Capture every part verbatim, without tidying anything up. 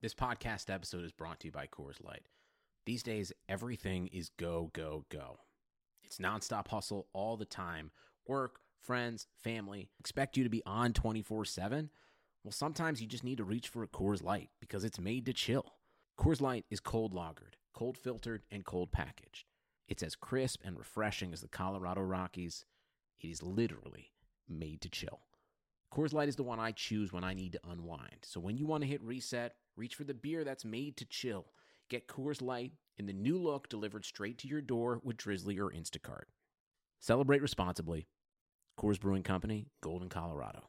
This podcast episode is brought to you by Coors Light. These days, everything is go, go, go. It's nonstop hustle all the time. Work, friends, family, expect you to be on twenty-four seven. Well, sometimes you just need to reach for a Coors Light because it's made to chill. Coors Light is cold lagered, cold filtered, and cold packaged. It's as crisp and refreshing as the Colorado Rockies. It is literally made to chill. Coors Light is the one I choose when I need to unwind. So when you want to hit reset, reach for the beer that's made to chill. Get Coors Light in the new look delivered straight to your door with Drizzly or Instacart. Celebrate responsibly. Coors Brewing Company, Golden, Colorado.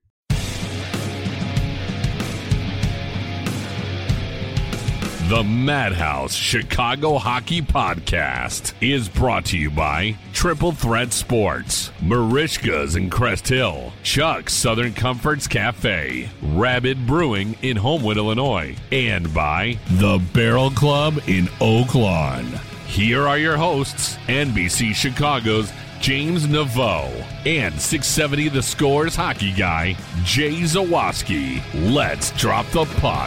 The Madhouse Chicago Hockey Podcast is brought to you by Triple Threat Sports, Marishka's in Crest Hill, Chuck's Southern Comforts Cafe, Rabid Brewing in Homewood, Illinois, and by The Barrel Club in Oak Lawn. Here are your hosts, N B C Chicago's James Naveau and six seventy The Score's hockey guy, Jay Zawaski. Let's drop the puck.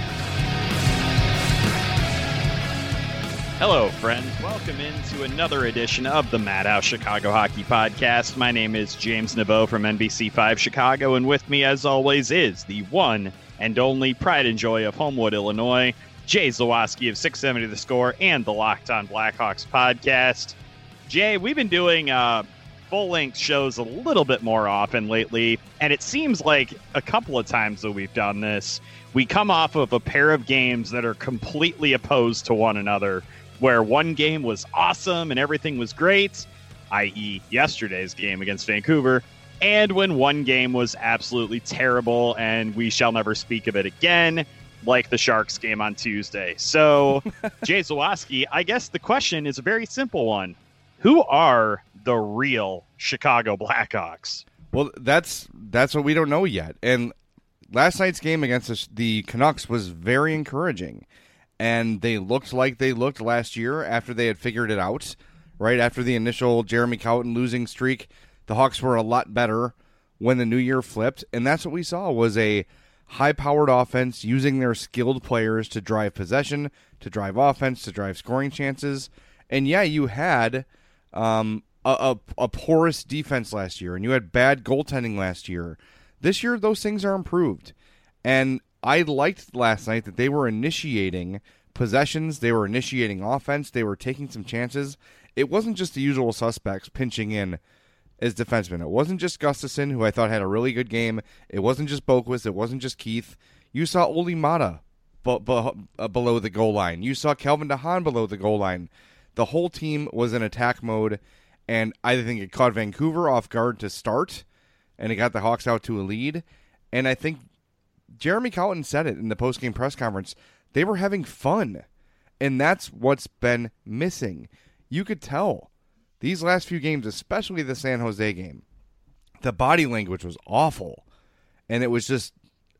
Hello, friends. Welcome into another edition of the Madhouse Chicago Hockey Podcast. My name is James Naveau from N B C five Chicago, and with me, as always, is the one and only pride and joy of Homewood, Illinois, Jay Zawaski of six seventy The Score and the Locked On Blackhawks podcast. Jay, we've been doing uh, full-length shows a little bit more often lately, and it seems like a couple of times that we've done this, we come off of a pair of games that are completely opposed to one another, where one game was awesome and everything was great, that is yesterday's game against Vancouver, and when one game was absolutely terrible and we shall never speak of it again, like the Sharks game on Tuesday. So, Jay Zawaski, I guess the question is a very simple one. Who are the real Chicago Blackhawks? Well, that's that's what we don't know yet. And last night's game against the, the Canucks was very encouraging. And they looked like they looked last year after they had figured it out. Right after the initial Jeremy Colliton losing streak, the Hawks were a lot better when the new year flipped. And that's what we saw was a high-powered offense using their skilled players to drive possession, to drive offense, to drive scoring chances. And yeah, you had um, a, a, a porous defense last year, and you had bad goaltending last year. This year, those things are improved. And I liked last night that they were initiating possessions, they were initiating offense, they were taking some chances. It wasn't just the usual suspects pinching in as defensemen. It wasn't just Gustafsson, who I thought had a really good game. It wasn't just Boquist. It wasn't just Keith. You saw Olli Mata b- b- uh, below the goal line. You saw Calvin DeHaan below the goal line. The whole team was in attack mode, and I think it caught Vancouver off guard to start, and it got the Hawks out to a lead. And I think Jeremy Colliton said it in the post-game press conference. They were having fun, and that's what's been missing. You could tell these last few games, especially the San Jose game, the body language was awful, and it was just,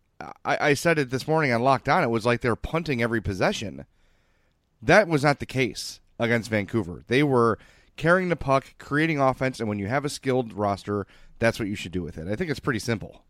I, I said it this morning on Locked On, it was like they're punting every possession. That was not the case against Vancouver. They were carrying the puck, creating offense, and when you have a skilled roster, that's what you should do with it. I think it's pretty simple.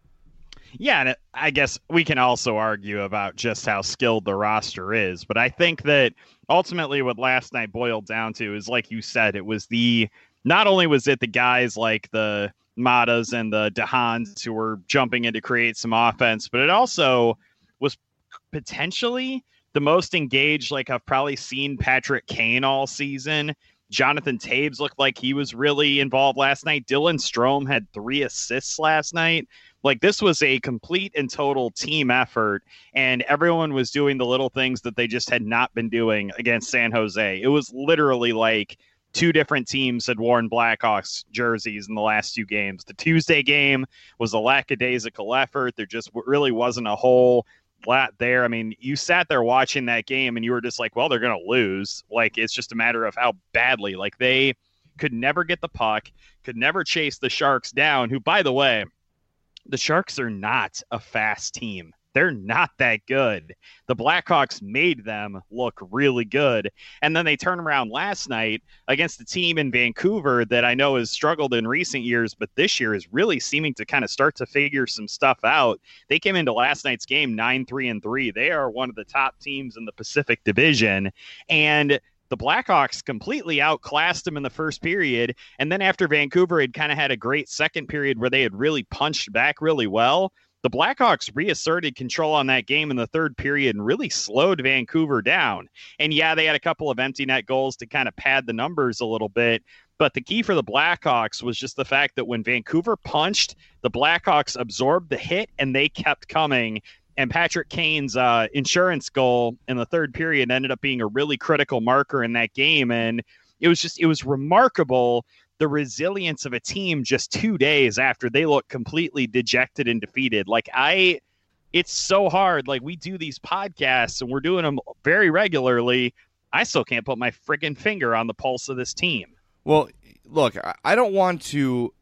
Yeah, and I guess we can also argue about just how skilled the roster is, but I think that ultimately what last night boiled down to is, like you said, it was the, not only was it the guys like the Matas and the DeHaans who were jumping in to create some offense, but it also was potentially the most engaged, like I've probably seen Patrick Kane all season. Jonathan Toews looked like he was really involved last night. Dylan Strome had three assists last night. Like, this was a complete and total team effort, and everyone was doing the little things that they just had not been doing against San Jose. It was literally like two different teams had worn Blackhawks jerseys in the last two games. The Tuesday game was a lackadaisical effort. There just really wasn't a whole lot there. I mean, you sat there watching that game, and you were just like, well, they're going to lose. Like, it's just a matter of how badly. Like, they could never get the puck, could never chase the Sharks down, who, by the way, the Sharks are not a fast team they're not that good. The Blackhawks made them look really good. And then they turn around last night against a team in Vancouver that I know has struggled in recent years, but this year is really seeming to kind of start to figure some stuff out. They came into last night's game nine three and three. They are one of the top teams in the Pacific Division. And the Blackhawks completely outclassed them in the first period. And then after Vancouver had kind of had a great second period where they had really punched back really well, the Blackhawks reasserted control on that game in the third period and really slowed Vancouver down. And yeah, they had a couple of empty net goals to kind of pad the numbers a little bit. But the key for the Blackhawks was just the fact that when Vancouver punched, the Blackhawks absorbed the hit and they kept coming. And Patrick Kane's uh, insurance goal in the third period ended up being a really critical marker in that game. And it was just, it was remarkable, the resilience of a team just two days after they look completely dejected and defeated. Like I, it's so hard. Like we do these podcasts and we're doing them very regularly. I still can't put my friggin' finger on the pulse of this team. Well, look, I don't want to,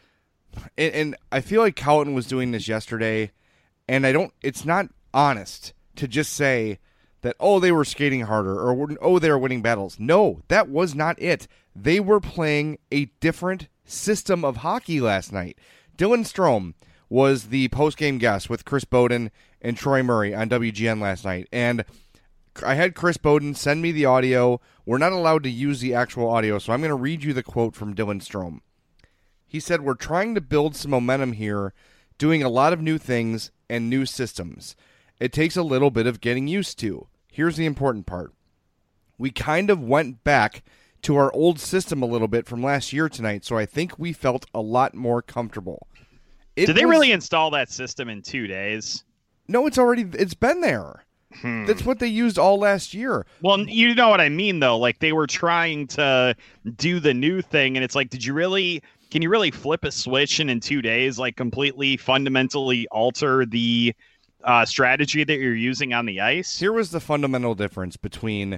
and, and I feel like Colton was doing this yesterday. And I don't, it's not honest to just say that, oh, they were skating harder or, oh, they were winning battles. No, that was not it. They were playing a different system of hockey last night. Dylan Strome was the post-game guest with Chris Bowden and Troy Murray on W G N last night. And I had Chris Bowden send me the audio. We're not allowed to use the actual audio, so I'm going to read you the quote from Dylan Strome. He said, "We're trying to build some momentum here, doing a lot of new things and new systems. It takes a little bit of getting used to. Here's the important part. We kind of went back to our old system a little bit from last year tonight, so I think we felt a lot more comfortable." It Did they was, really install that system in two days? No, it's already, it's been there. Hmm. That's what they used all last year. Well, you know what I mean, though. Like, they were trying to do the new thing, and it's like, did you really... Can you really flip a switch and in two days, like completely fundamentally alter the uh, strategy that you're using on the ice? Here was the fundamental difference between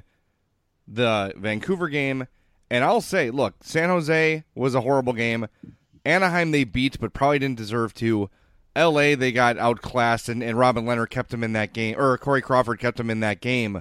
the Vancouver game, and I'll say, look, San Jose was a horrible game. Anaheim they beat, but probably didn't deserve to. L A, they got outclassed, and, and Robin Leonard kept them in that game, or Corey Crawford kept them in that game.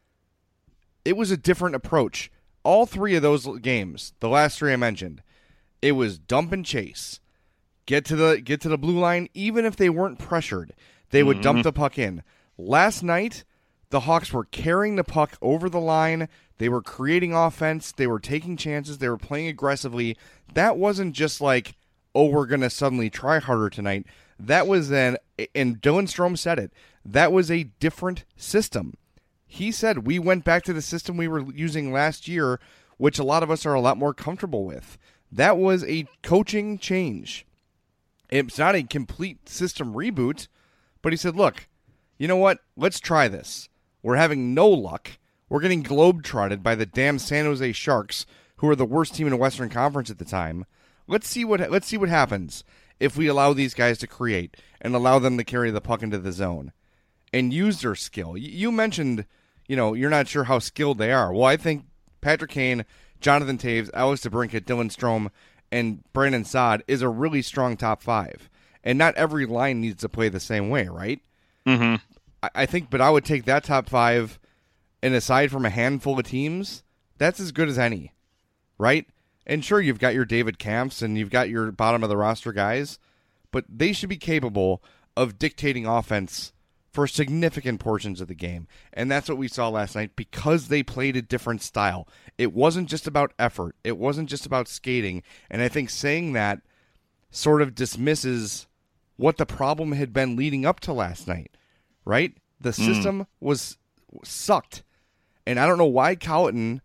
It was a different approach. All three of those games, the last three I mentioned, it was dump and chase. Get to the get to the blue line, even if they weren't pressured. They would mm-hmm. dump the puck in. Last night, the Hawks were carrying the puck over the line. They were creating offense. They were taking chances. They were playing aggressively. That wasn't just like, oh, we're going to suddenly try harder tonight. That was an, and Dylan Strome said it, that was a different system. He said we went back to the system we were using last year, which a lot of us are a lot more comfortable with. That was a coaching change. It's not a complete system reboot, but he said, look, you know what? Let's try this. We're having no luck. We're getting globe-trotted by the damn San Jose Sharks, who are the worst team in the Western Conference at the time. Let's see what let's see what happens if we allow these guys to create and allow them to carry the puck into the zone and use their skill. You mentioned, you know, you're not sure how skilled they are. Well, I think Patrick Kane, Jonathan Toews, Alex DeBrincat, Dylan Strome, and Brandon Saad is a really strong top five. And not every line needs to play the same way, right? Mm-hmm. I, I think, but I would take that top five, and aside from a handful of teams, that's as good as any, right? And sure, you've got your David Kampfs and you've got your bottom of the roster guys, but they should be capable of dictating offense for significant portions of the game. And that's what we saw last night because they played a different style. It wasn't just about effort. It wasn't just about skating. And I think saying that sort of dismisses what the problem had been leading up to last night, right? The system mm. was sucked. And I don't know why Colton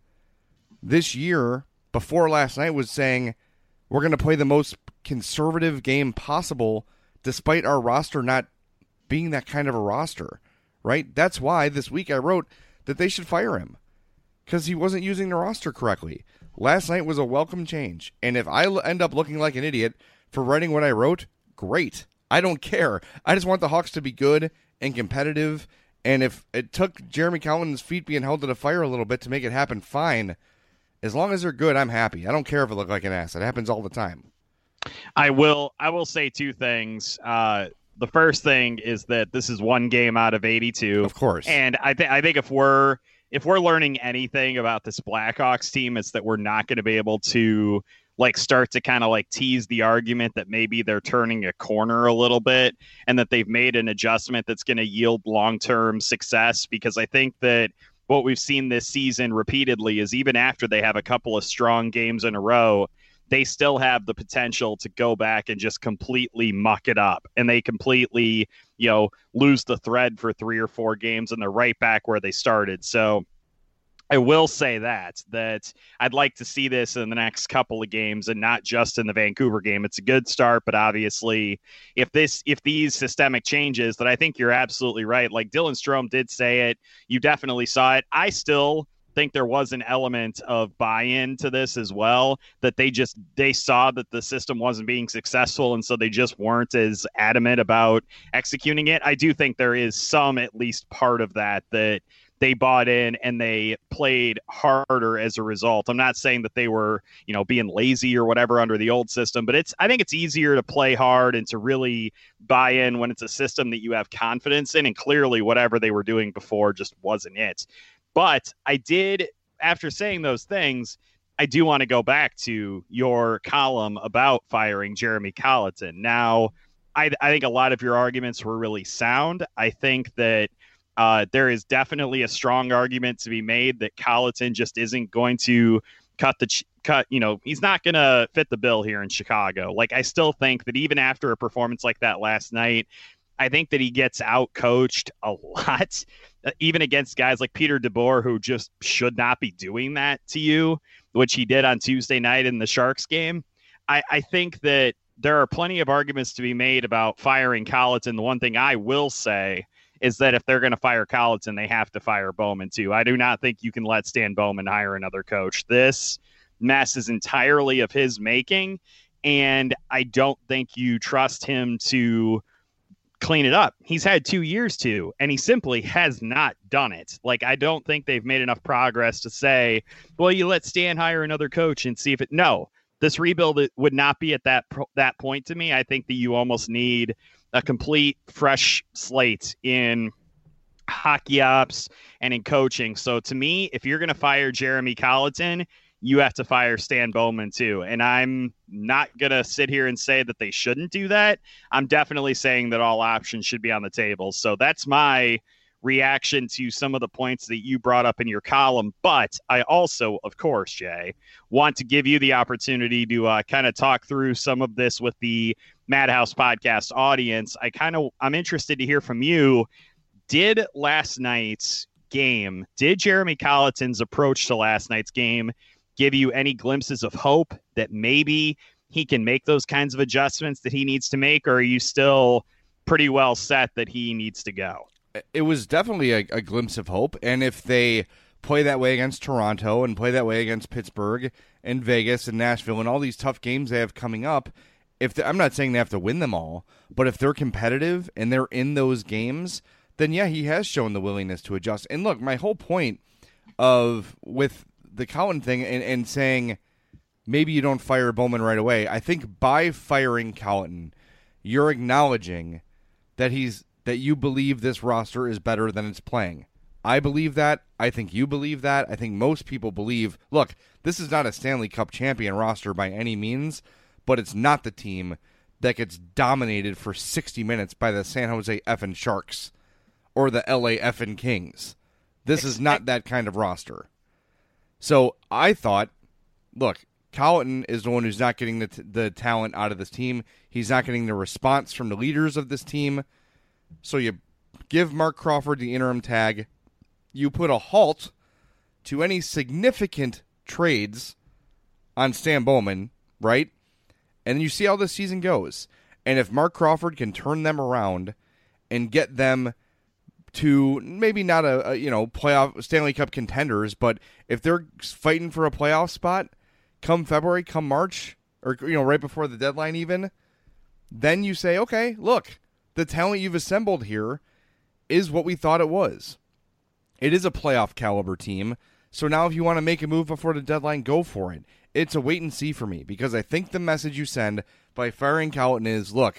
this year, before last night, was saying we're going to play the most conservative game possible despite our roster not being that kind of a roster, right? That's why this week I wrote that they should fire him because he wasn't using the roster correctly. Last night was a welcome change, and if I end up looking like an idiot for writing what I wrote, great. I don't care. I just want the Hawks to be good and competitive, and if it took Jeremy Collins' feet being held to the fire a little bit to make it happen, fine. As long as they're good, I'm happy. I don't care if it looked like an ass. It happens all the time. I will I will say two things. Uh, the first thing is that this is one game out of eighty-two. Of course. And I think I think if we're if we're learning anything about this Blackhawks team, it's that we're not going to be able to like start to kind of like tease the argument that maybe they're turning a corner a little bit and that they've made an adjustment that's going to yield long-term success. Because I think that what we've seen this season repeatedly is even after they have a couple of strong games in a row, they still have the potential to go back and just completely muck it up. And they completely, you know, lose the thread for three or four games and they're right back where they started. So I will say that, that I'd like to see this in the next couple of games and not just in the Vancouver game. It's a good start, but obviously if this, if these systemic changes that I think you're absolutely right. Like Dylan Strome did say it, you definitely saw it. I still think there was an element of buy-in to this as well, that they just, they saw that the system wasn't being successful. And so they just weren't as adamant about executing it. I do think there is some, at least part of that, that they bought in and they played harder as a result. I'm not saying that they were, you know, being lazy or whatever under the old system, but it's, I think it's easier to play hard and to really buy in when it's a system that you have confidence in. And clearly whatever they were doing before just wasn't it. But I did, after saying those things, I do want to go back to your column about firing Jeremy Colliton. Now, I, I think a lot of your arguments were really sound. I think that Uh, there is definitely a strong argument to be made that Colliton just isn't going to cut the ch- cut. You know, he's not going to fit the bill here in Chicago. Like, I still think that even after a performance like that last night, I think that he gets out coached a lot, uh, even against guys like Peter DeBoer, who just should not be doing that to you, which he did on Tuesday night in the Sharks game. I, I think that there are plenty of arguments to be made about firing Colliton. The one thing I will say is that if they're going to fire Colliton, they have to fire Bowman too. I do not think you can let Stan Bowman hire another coach. This mess is entirely of his making, and I don't think you trust him to clean it up. He's had two years to, and he simply has not done it. Like, I don't think they've made enough progress to say, well, you let Stan hire another coach and see if it, no, this rebuild would not be at that, that point to me. I think that you almost need a complete fresh slate in hockey ops and in coaching. So to me, if you're going to fire Jeremy Colliton, you have to fire Stan Bowman too. And I'm not going to sit here and say that they shouldn't do that. I'm definitely saying that all options should be on the table. So that's my reaction to some of the points that you brought up in your column. But I also, of course, Jay, want to give you the opportunity to uh, kind of talk through some of this with the Madhouse podcast audience. I kind of, I'm interested to hear from you. Did last night's game, did Jeremy Colliton's approach to last night's game give you any glimpses of hope that maybe he can make those kinds of adjustments that he needs to make? Or are you still pretty well set that he needs to go? It was definitely a, a glimpse of hope. And if they play that way against Toronto and play that way against Pittsburgh and Vegas and Nashville and all these tough games they have coming up, if I'm not saying they have to win them all, but if they're competitive and they're in those games, then yeah, he has shown the willingness to adjust. And look, my whole point of with the Colliton thing and, and saying maybe you don't fire Bowman right away, I think by firing Colliton, you're acknowledging that he's that you believe this roster is better than it's playing. I believe that. I think you believe that. I think most people believe, look, this is not a Stanley Cup champion roster by any means, but it's not the team that gets dominated for sixty minutes by the San Jose effing Sharks or the L A effing Kings. This is not that kind of roster. So I thought, look, Colliton is the one who's not getting the, t- the talent out of this team. He's not getting the response from the leaders of this team. So you give Mark Crawford the interim tag. You put a halt to any significant trades on Stan Bowman, right? And you see how this season goes. And if Mark Crawford can turn them around and get them to maybe not a, a you know playoff Stanley Cup contenders, but if they're fighting for a playoff spot come February, come March, or you know right before the deadline even, then you say, okay, look, the talent you've assembled here is what we thought it was. It is a playoff caliber team. So now if you want to make a move before the deadline, go for it. It's a wait and see for me because I think the message you send by firing Colliton is, look,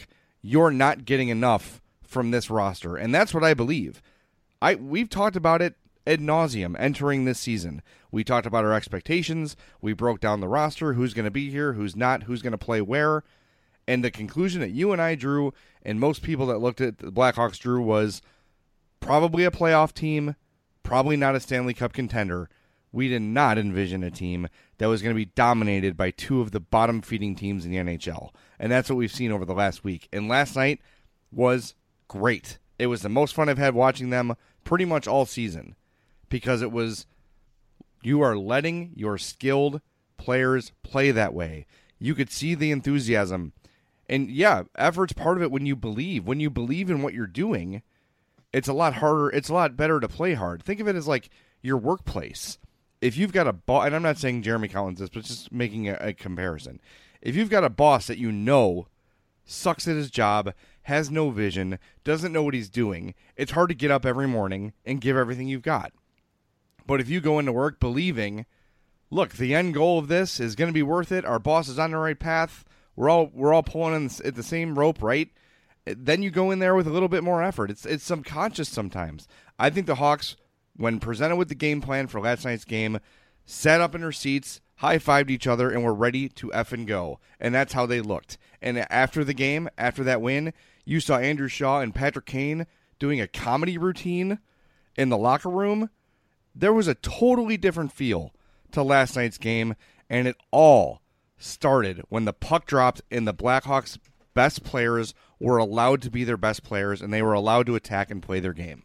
you're not getting enough from this roster. And that's what I believe. I We've talked about it ad nauseum entering this season. We talked about our expectations. We broke down the roster, who's going to be here, who's not, who's going to play where. And the conclusion that you and I drew, and most people that looked at the Blackhawks drew, was probably a playoff team, probably not a Stanley Cup contender. We did not envision a team that was going to be dominated by two of the bottom-feeding teams in the N H L. And that's what we've seen over the last week. And last night was great. It was the most fun I've had watching them pretty much all season, because it was, you are letting your skilled players play that way. You could see the enthusiasm. And yeah, effort's part of it when you believe. When you believe in what you're doing, it's a lot harder. It's a lot better to play hard. Think of it as like your workplace. If you've got a boss, and I'm not saying Jeremy Collins this, but just making a, a comparison. If you've got a boss that you know sucks at his job, has no vision, doesn't know what he's doing, it's hard to get up every morning and give everything you've got. But if you go into work believing, look, the end goal of this is going to be worth it, our boss is on the right path, we're all we're all pulling in at the same rope, right? Then you go in there with a little bit more effort. It's it's subconscious sometimes. I think the Hawks, when presented with the game plan for last night's game, sat up in their seats, high-fived each other, and were ready to effing go. And that's how they looked. And after the game, after that win, you saw Andrew Shaw and Patrick Kane doing a comedy routine in the locker room. There was a totally different feel to last night's game, and it all started when the puck dropped and the Blackhawks' best players were allowed to be their best players, and they were allowed to attack and play their game.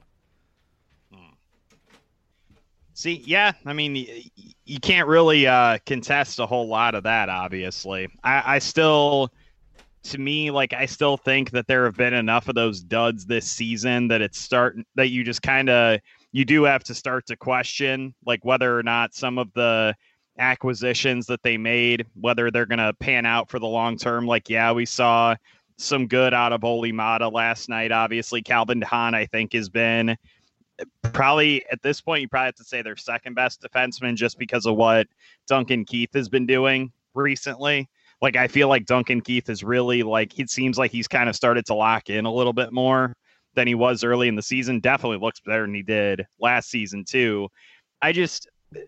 See, yeah, I mean, you can't really uh, contest a whole lot of that, obviously. I, I still, to me, like, I still think that there have been enough of those duds this season that it's starting, that you just kind of, you do have to start to question, like, whether or not some of the acquisitions that they made, whether they're going to pan out for the long term. Like, yeah, we saw some good out of Olli Maatta last night. Obviously, Calvin Hahn, I think, has been probably at this point, you probably have to say their second best defenseman, just because of what Duncan Keith has been doing recently. Like, I feel like Duncan Keith is really, like, it seems like he's kind of started to lock in a little bit more than he was early in the season. Definitely looks better than he did last season too. I just,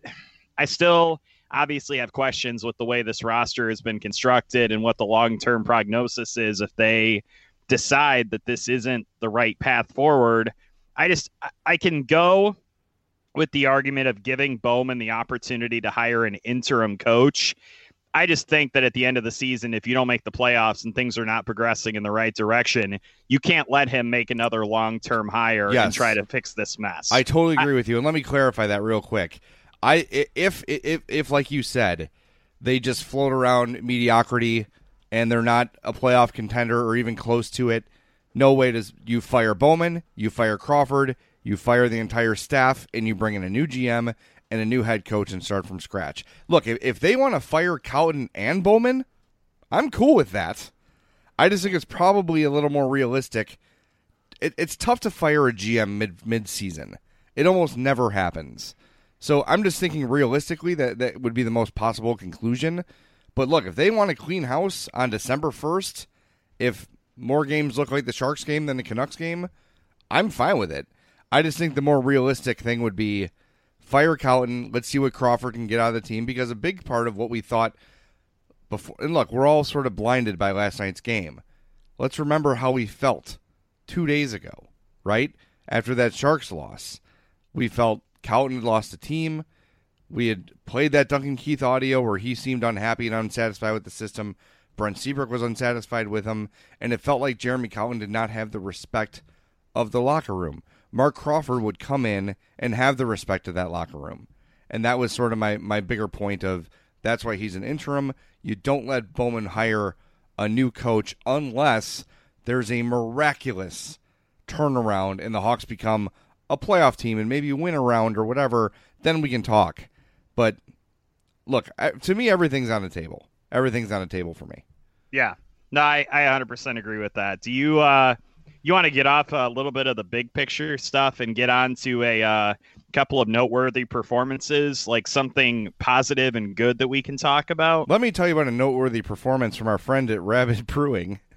I still obviously have questions with the way this roster has been constructed and what the long-term prognosis is if they decide that this isn't the right path forward. I just, I can go with the argument of giving Bowman the opportunity to hire an interim coach. I just think that at the end of the season, if you don't make the playoffs and things are not progressing in the right direction, you can't let him make another long-term hire yes. and try to fix this mess. I totally agree I, with you. And let me clarify that real quick. I, if, if, if, like you said, they just float around mediocrity and they're not a playoff contender or even close to it, no way does you fire Bowman, you fire Crawford, you fire the entire staff, and you bring in a new G M and a new head coach and start from scratch. Look, if, if they want to fire Cowden and Bowman, I'm cool with that. I just think it's probably a little more realistic. It, it's tough to fire a G M mid mid-season. It almost never happens. So I'm just thinking realistically that that would be the most possible conclusion. But look, if they want to clean house on December first, if more games look like the Sharks game than the Canucks game, I'm fine with it. I just think the more realistic thing would be fire Cowden. Let's see what Crawford can get out of the team, because a big part of what we thought before, and look, we're all sort of blinded by last night's game. Let's remember how we felt two days ago, right? After that Sharks loss, we felt Cowden had lost the team. We had played that Duncan Keith audio where he seemed unhappy and unsatisfied with the system. Brent Seabrook was unsatisfied with him, and it felt like Jeremy Cowden did not have the respect of the locker room. Mark Crawford would come in and have the respect of that locker room. And that was sort of my, my bigger point of that's why he's an interim. You don't let Bowman hire a new coach unless there's a miraculous turnaround and the Hawks become a playoff team and maybe win a round or whatever. Then we can talk. But look, to me, everything's on the table. Everything's on the table for me. Yeah. No, I, I one hundred percent agree with that. Do you uh, you want to get off a little bit of the big picture stuff and get on to a uh, couple of noteworthy performances, like something positive and good that we can talk about? Let me tell you about a noteworthy performance from our friend at Rabid Brewing.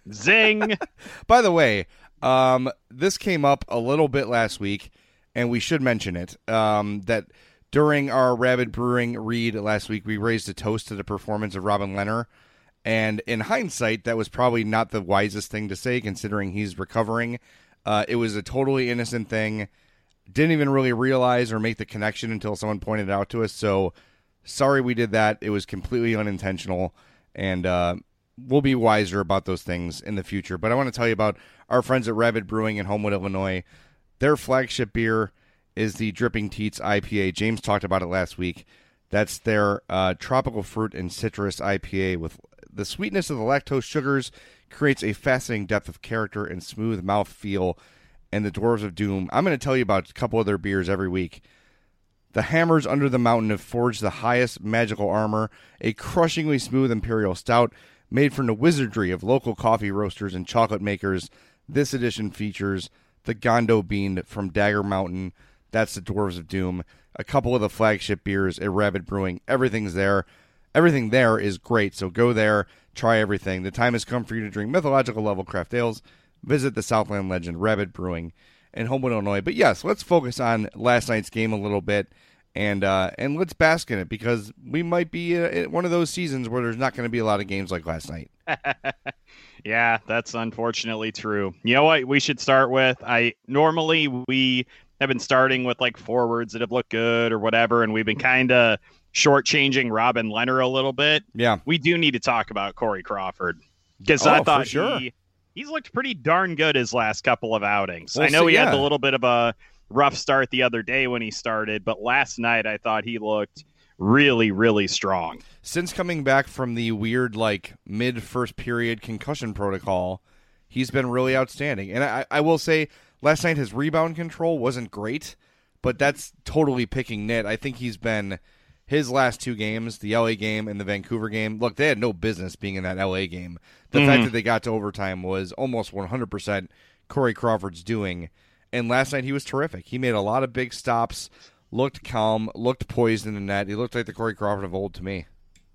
Zing. By the way, um, this came up a little bit last week, and we should mention it, um, that during our Rabid Brewing read last week, we raised a toast to the performance of Robin Lehner. And in hindsight, that was probably not the wisest thing to say, considering he's recovering. Uh, it was a totally innocent thing. Didn't even really realize or make the connection until someone pointed it out to us. So sorry we did that. It was completely unintentional. And uh, we'll be wiser about those things in the future. But I want to tell you about our friends at Rabid Brewing in Homewood, Illinois. Their flagship beer is the Dripping Teats I P A. James talked about it last week. That's their uh, tropical fruit and citrus I P A. With the sweetness of the lactose sugars creates a fascinating depth of character and smooth mouth feel. And the Dwarves of Doom. I'm going to tell you about a couple of their beers every week. The Hammers Under the Mountain have forged the highest magical armor, a crushingly smooth imperial stout made from the wizardry of local coffee roasters and chocolate makers. This edition features the Gondo Bean from Dagger Mountain. That's the Dwarves of Doom. A couple of the flagship beers at Rabid Brewing. Everything's there. Everything there is great, so go there, try everything. The time has come for you to drink mythological level craft ales. Visit the Southland legend, Rabid Brewing in Homewood, Illinois. But yes, let's focus on last night's game a little bit, and uh, and let's bask in it, because we might be uh, one of those seasons where there's not going to be a lot of games like last night. Yeah, that's unfortunately true. You know what we should start with? I normally we have been starting with like forwards that have looked good or whatever, and we've been kind of shortchanging Robin Lehner a little bit. Yeah, we do need to talk about Corey Crawford, because oh, I thought for sure. he he's looked pretty darn good his last couple of outings. Well, I know so, he yeah. had a little bit of a rough start the other day when he started, but last night I thought he looked really, really strong. Since coming back from the weird, like, mid-first period concussion protocol, he's been really outstanding. And I, I will say, last night his rebound control wasn't great, but that's totally picking nit. I think he's been, his last two games, the L A game and the Vancouver game, look, they had no business being in that L A game. The mm-hmm. fact that they got to overtime was almost one hundred percent Corey Crawford's doing. And last night he was terrific. He made a lot of big stops, looked calm, looked poised in the net. He looked like the Corey Crawford of old to me.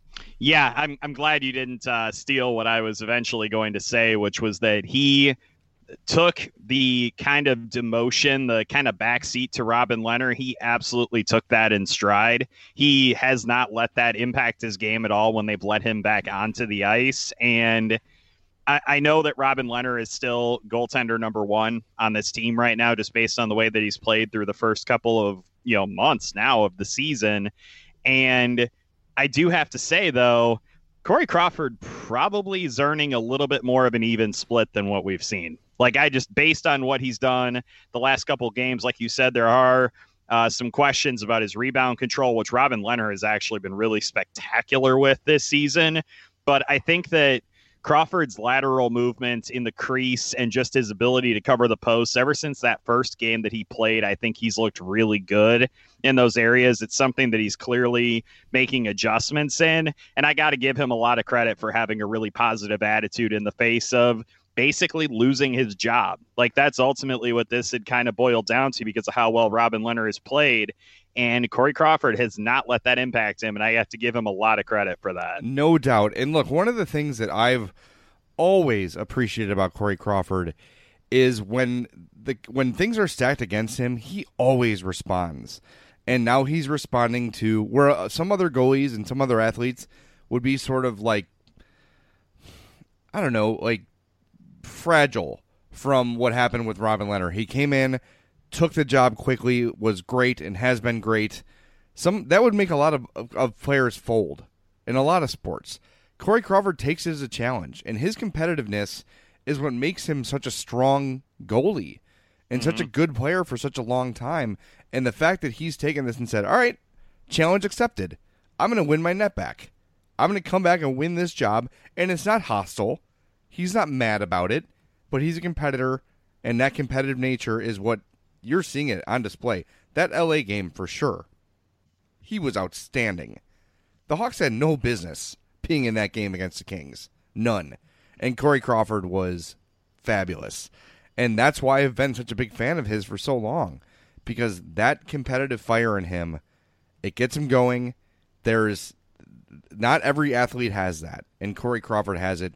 Yeah, I'm I'm glad you didn't uh, steal what I was eventually going to say, which was that he took the kind of demotion, the kind of backseat to Robin Lehner. He absolutely took that in stride. He has not let that impact his game at all when they've let him back onto the ice. And I, I know that Robin Lehner is still goaltender number one on this team right now, just based on the way that he's played through the first couple of, you know, months now of the season. And I do have to say, though, Corey Crawford probably is earning a little bit more of an even split than what we've seen. Like, I just, based on what he's done the last couple of games, like you said, there are uh, some questions about his rebound control, which Robin Lehner has actually been really spectacular with this season. But I think that Crawford's lateral movement in the crease and just his ability to cover the posts ever since that first game that he played, I think he's looked really good in those areas. It's something that he's clearly making adjustments in. And I got to give him a lot of credit for having a really positive attitude in the face of basically losing his job. Like, that's ultimately what this had kind of boiled down to because of how well Robin Lehner has played. And Corey Crawford has not let that impact him, and I have to give him a lot of credit for that. No doubt. And look, one of the things that I've always appreciated about Corey Crawford is when the when things are stacked against him, he always responds. And now he's responding to where some other goalies and some other athletes would be sort of like, I don't know, like fragile from what happened with Robin Lehner. He came in, took the job quickly, was great, and has been great. Some that would make a lot of, of, of players fold in a lot of sports. Corey Crawford takes it as a challenge, and his competitiveness is what makes him such a strong goalie and mm-hmm. such a good player for such a long time. And the fact that he's taken this and said, all right, challenge accepted. I'm going to win my net back. I'm going to come back and win this job, and it's not hostile. He's not mad about it, but he's a competitor, and that competitive nature is what you're seeing it on display. That L A game, for sure, he was outstanding. The Hawks had no business being in that game against the Kings. None. And Corey Crawford was fabulous. And that's why I've been such a big fan of his for so long. Because that competitive fire in him, it gets him going. There's not every athlete has that. And Corey Crawford has it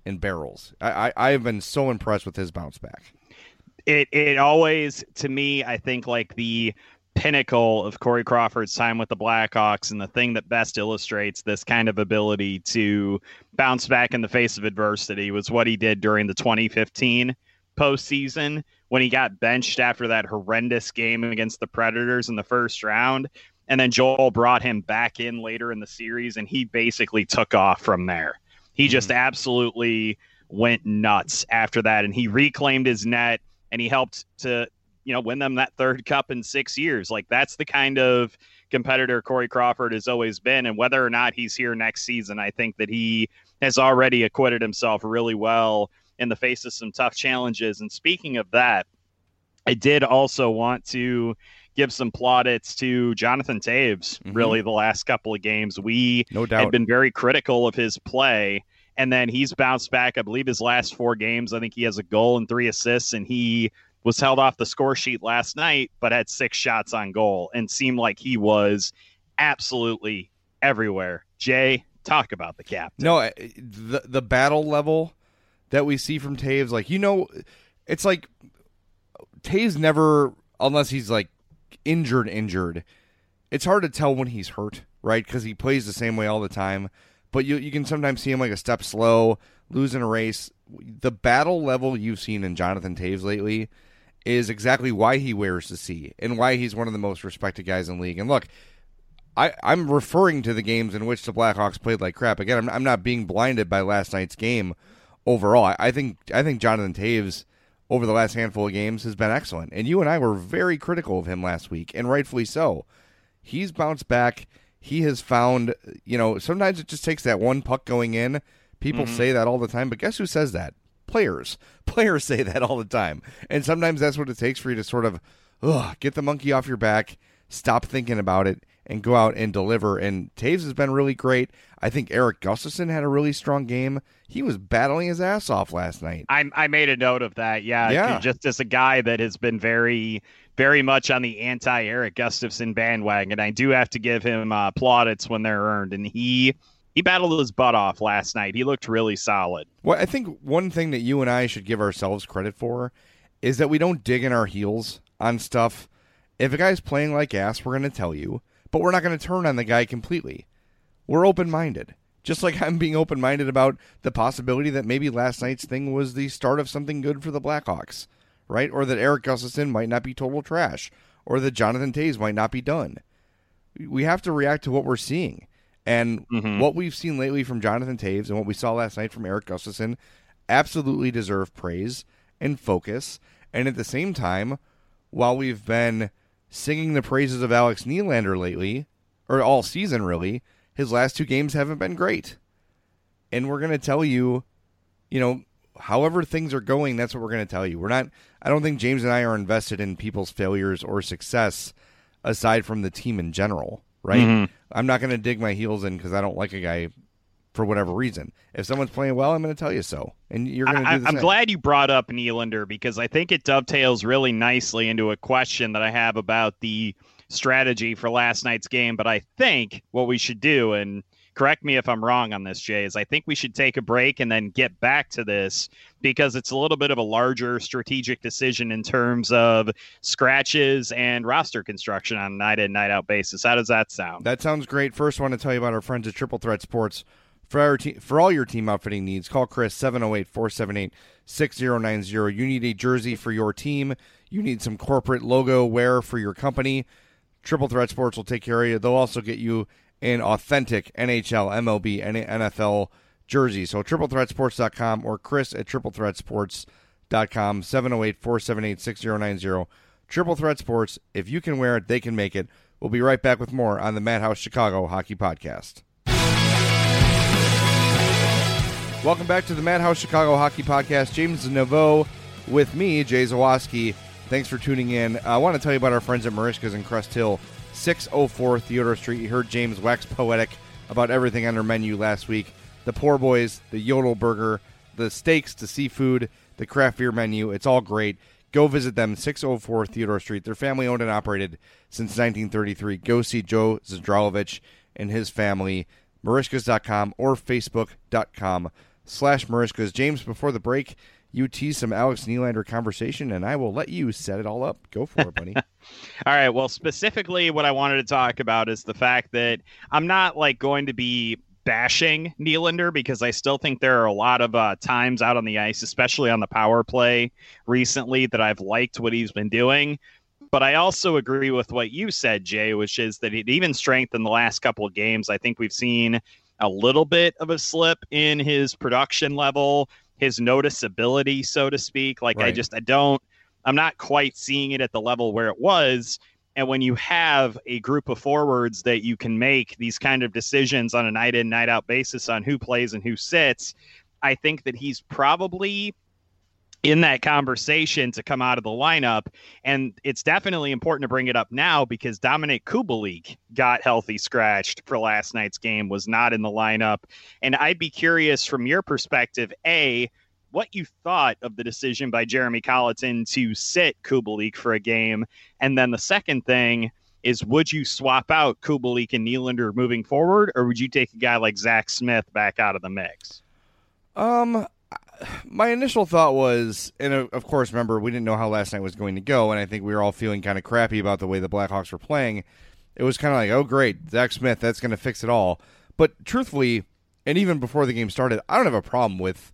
in barrels. I, I, I have been so impressed with his bounce back. It it always, to me, I think like the pinnacle of Corey Crawford's time with the Blackhawks and the thing that best illustrates this kind of ability to bounce back in the face of adversity was what he did during the twenty fifteen postseason when he got benched after that horrendous game against the Predators in the first round. And then Joel brought him back in later in the series, and he basically took off from there. He just mm-hmm. absolutely went nuts after that, and he reclaimed his net. And he helped to, you know, win them that third cup in six years. Like, that's the kind of competitor Corey Crawford has always been. And whether or not he's here next season, I think that he has already acquitted himself really well in the face of some tough challenges. And speaking of that, I did also want to give some plaudits to Jonathan Toews, mm-hmm. really, the last couple of games. We no doubt. had been very critical of his play. And then he's bounced back. I believe his last four games, I think he has a goal and three assists, and he was held off the score sheet last night, but had six shots on goal and seemed like he was absolutely everywhere. Jay, talk about the captain. No, the the battle level that we see from Toews, like, you know, it's like Toews never, unless he's like injured, injured, it's hard to tell when he's hurt, right? Because he plays the same way all the time. But you you can sometimes see him like a step slow, losing a race. The battle level you've seen in Jonathan Toews lately is exactly why he wears the C and why he's one of the most respected guys in the league. And look, I, I'm referring to the games in which the Blackhawks played like crap. Again, I'm, I'm not being blinded by last night's game overall. I, I think I think Jonathan Toews over the last handful of games has been excellent. And you and I were very critical of him last week, and rightfully so. He's bounced back. He has found, you know, sometimes it just takes that one puck going in. People mm-hmm. say that all the time, but guess who says that? Players. Players say that all the time. And sometimes that's what it takes for you to sort of ugh, get the monkey off your back, stop thinking about it, and go out and deliver. And Toews has been really great. I think Erik Gustafsson had a really strong game. He was battling his ass off last night. I, I made a note of that, yeah. yeah. Just as a guy that has been very... very much on the anti-Erik Gustafsson bandwagon. I do have to give him uh, plaudits when they're earned, and he he battled his butt off last night. He looked really solid. Well, I think one thing that you and I should give ourselves credit for is that we don't dig in our heels on stuff. If a guy's playing like ass, we're going to tell you, but we're not going to turn on the guy completely. We're open-minded. Just like I'm being open-minded about the possibility that maybe last night's thing was the start of something good for the Blackhawks. Right? Or that Erik Gustafsson might not be total trash. Or that Jonathan Toews might not be done. We have to react to what we're seeing. And mm-hmm. what we've seen lately from Jonathan Toews and what we saw last night from Erik Gustafsson absolutely deserve praise and focus. And at the same time, while we've been singing the praises of Alex Nylander lately, or all season really, his last two games haven't been great. And we're going to tell you, you know, however things are going, that's what we're going to tell you. We're not, I don't think James and I are invested in people's failures or success aside from the team in general, right? Mm-hmm. I'm not going to dig my heels in because I don't like a guy for whatever reason. If someone's playing well, I'm going to tell you so. And you're going to do the I'm same. glad you brought up Nylander because I think it dovetails really nicely into a question that I have about the strategy for last night's game. But I think what we should do, and correct me if I'm wrong on this, Jay, is I think we should take a break and then get back to this because it's a little bit of a larger strategic decision in terms of scratches and roster construction on a night in, night out basis. How does that sound? That sounds great. First, I want to tell you about our friends at Triple Threat Sports. For, our te- for all your team outfitting needs, call Chris seven oh eight, four seven eight, six oh nine oh. You need a jersey for your team. You need some corporate logo wear for your company. Triple Threat Sports will take care of you. They'll also get you an authentic N H L, M L B, and N F L jersey. So triple threat sports dot com or Chris at triple threat sports dot com, seven oh eight, four seven eight, six oh nine oh. Triple Threat Sports, if you can wear it, they can make it. We'll be right back with more on the Madhouse Chicago Hockey Podcast. Welcome back to the Madhouse Chicago Hockey Podcast. James Naveau with me, Jay Zawaski. Thanks for tuning in. I want to tell you about our friends at Marishka's in Crest Hill, six oh four Theodore Street. You heard James wax poetic about everything on their menu last week. The Poor Boys, the Yodel Burger, the steaks, the seafood, the craft beer menu. It's all great. Go visit them, six oh four Theodore Street. They're family owned and operated since nineteen thirty-three. Go see Joe Zdralovich and his family. Marishkas dot com or Facebook dot com slash Marishkas. James, before the break, you tease some Alex Nylander conversation, and I will let you set it all up. Go for it, buddy. All right. Well, specifically what I wanted to talk about is the fact that I'm not like going to be bashing Nylander, because I still think there are a lot of uh, times out on the ice, especially on the power play recently, that I've liked what he's been doing. But I also agree with what you said, Jay, which is that it even strengthened the last couple of games. I think we've seen a little bit of a slip in his production level, his noticeability, so to speak. Like, right. I just, I don't, I'm not quite seeing it at the level where it was. And when you have a group of forwards that you can make these kind of decisions on a night in, night out basis on who plays and who sits, I think that he's probably in that conversation to come out of the lineup. And it's definitely important to bring it up now because Dominik Kubalik got healthy scratched for last night's game, was not in the lineup. And I'd be curious from your perspective, A, what you thought of the decision by Jeremy Colliton to sit Kubalik for a game. And then the second thing is, would you swap out Kubalik and Nylander moving forward, or would you take a guy like Zach Smith back out of the mix? Um, my initial thought was, and of course, remember, we didn't know how last night was going to go, and I think we were all feeling kind of crappy about the way the Blackhawks were playing. It was kind of like, oh, great, Zach Smith, that's going to fix it all. But truthfully, and even before the game started, I don't have a problem with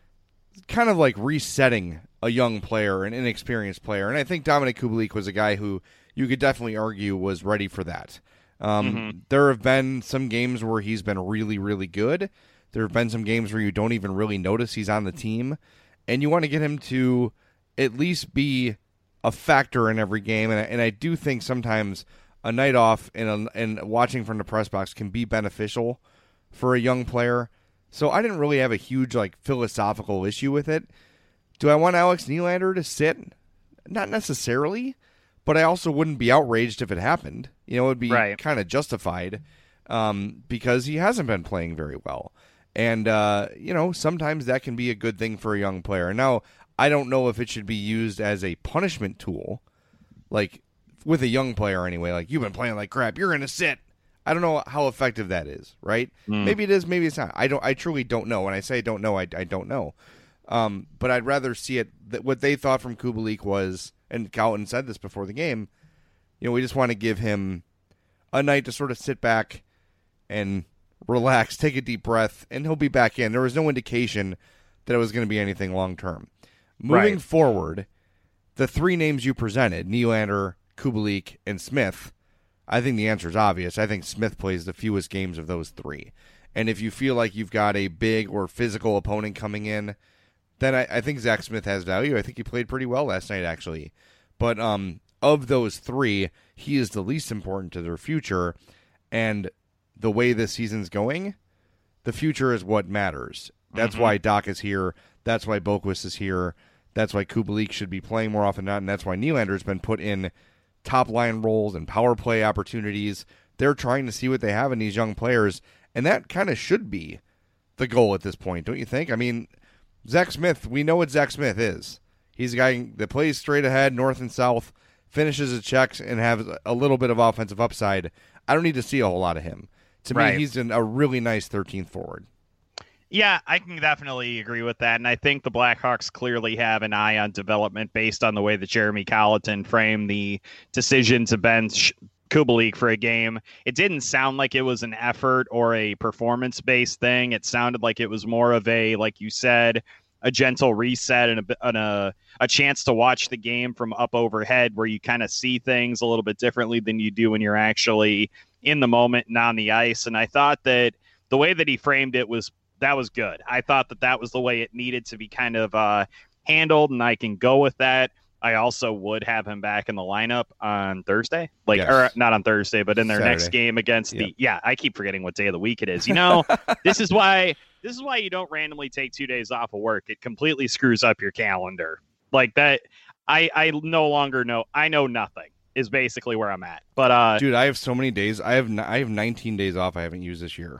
kind of like resetting a young player, an inexperienced player. And I think Dominik Kubalik was a guy who you could definitely argue was ready for that. Um, mm-hmm. There have been some games where he's been really, really good. There have been some games where you don't even really notice he's on the team. And you want to get him to at least be a factor in every game. And I, and I do think sometimes a night off and, a, and watching from the press box can be beneficial for a young player. So I didn't really have a huge like philosophical issue with it. Do I want Alex Nylander to sit? Not necessarily, but I also wouldn't be outraged if it happened. You know, it would be right. kind of justified um, because he hasn't been playing very well. And, uh, you know, sometimes that can be a good thing for a young player. Now, I don't know if it should be used as a punishment tool, like with a young player anyway. Like, you've been playing like crap, you're going to sit. I don't know how effective that is, right? Mm. Maybe it is, maybe it's not. I don't. I truly don't know. When I say I don't know, I, I don't know. Um, but I'd rather see it. That what they thought from Kubalik was, and Colliton said this before the game, you know, we just want to give him a night to sort of sit back and relax, take a deep breath, and he'll be back in. There was no indication that it was going to be anything long term. Moving right. forward, the three names you presented, Nylander, Kubalik, and Smith, I think the answer is obvious. I think Smith plays the fewest games of those three. And if you feel like you've got a big or physical opponent coming in, then I, I think Zach Smith has value. I think he played pretty well last night, actually. But um, of those three, he is the least important to their future. And the way this season's going, the future is what matters. That's mm-hmm. why Doc is here. That's why Boquist is here. That's why Kubalik should be playing more often than not. And that's why Nylander's been put in top line roles and power play opportunities. They're trying to see what they have in these young players, and that kind of should be the goal at this point, don't you think? I mean, Zach Smith, we know what Zach Smith is. He's a guy that plays straight ahead, north and south, finishes his checks, and has a little bit of offensive upside. I don't need to see a whole lot of him. To right. me, he's in a really nice thirteenth forward. Yeah, I can definitely agree with that. And I think the Blackhawks clearly have an eye on development based on the way that Jeremy Colliton framed the decision to bench Kubalik for a game. It didn't sound like it was an effort or a performance-based thing. It sounded like it was more of a, like you said, a gentle reset and a, and a, a chance to watch the game from up overhead where you kind of see things a little bit differently than you do when you're actually in the moment and on the ice. And I thought that the way that he framed it was that was good. I thought that that was the way it needed to be kind of uh, handled, and I can go with that. I also would have him back in the lineup on Thursday, like yes. or not on Thursday, but in their Saturday. Next game against yep. the. Yeah, I keep forgetting what day of the week it is. You know, this is why this is why you don't randomly take two days off of work. It completely screws up your calendar. Like that, I I no longer know. I know nothing is basically where I'm at. But uh, dude, I have so many days. I have I have nineteen days off I haven't used this year.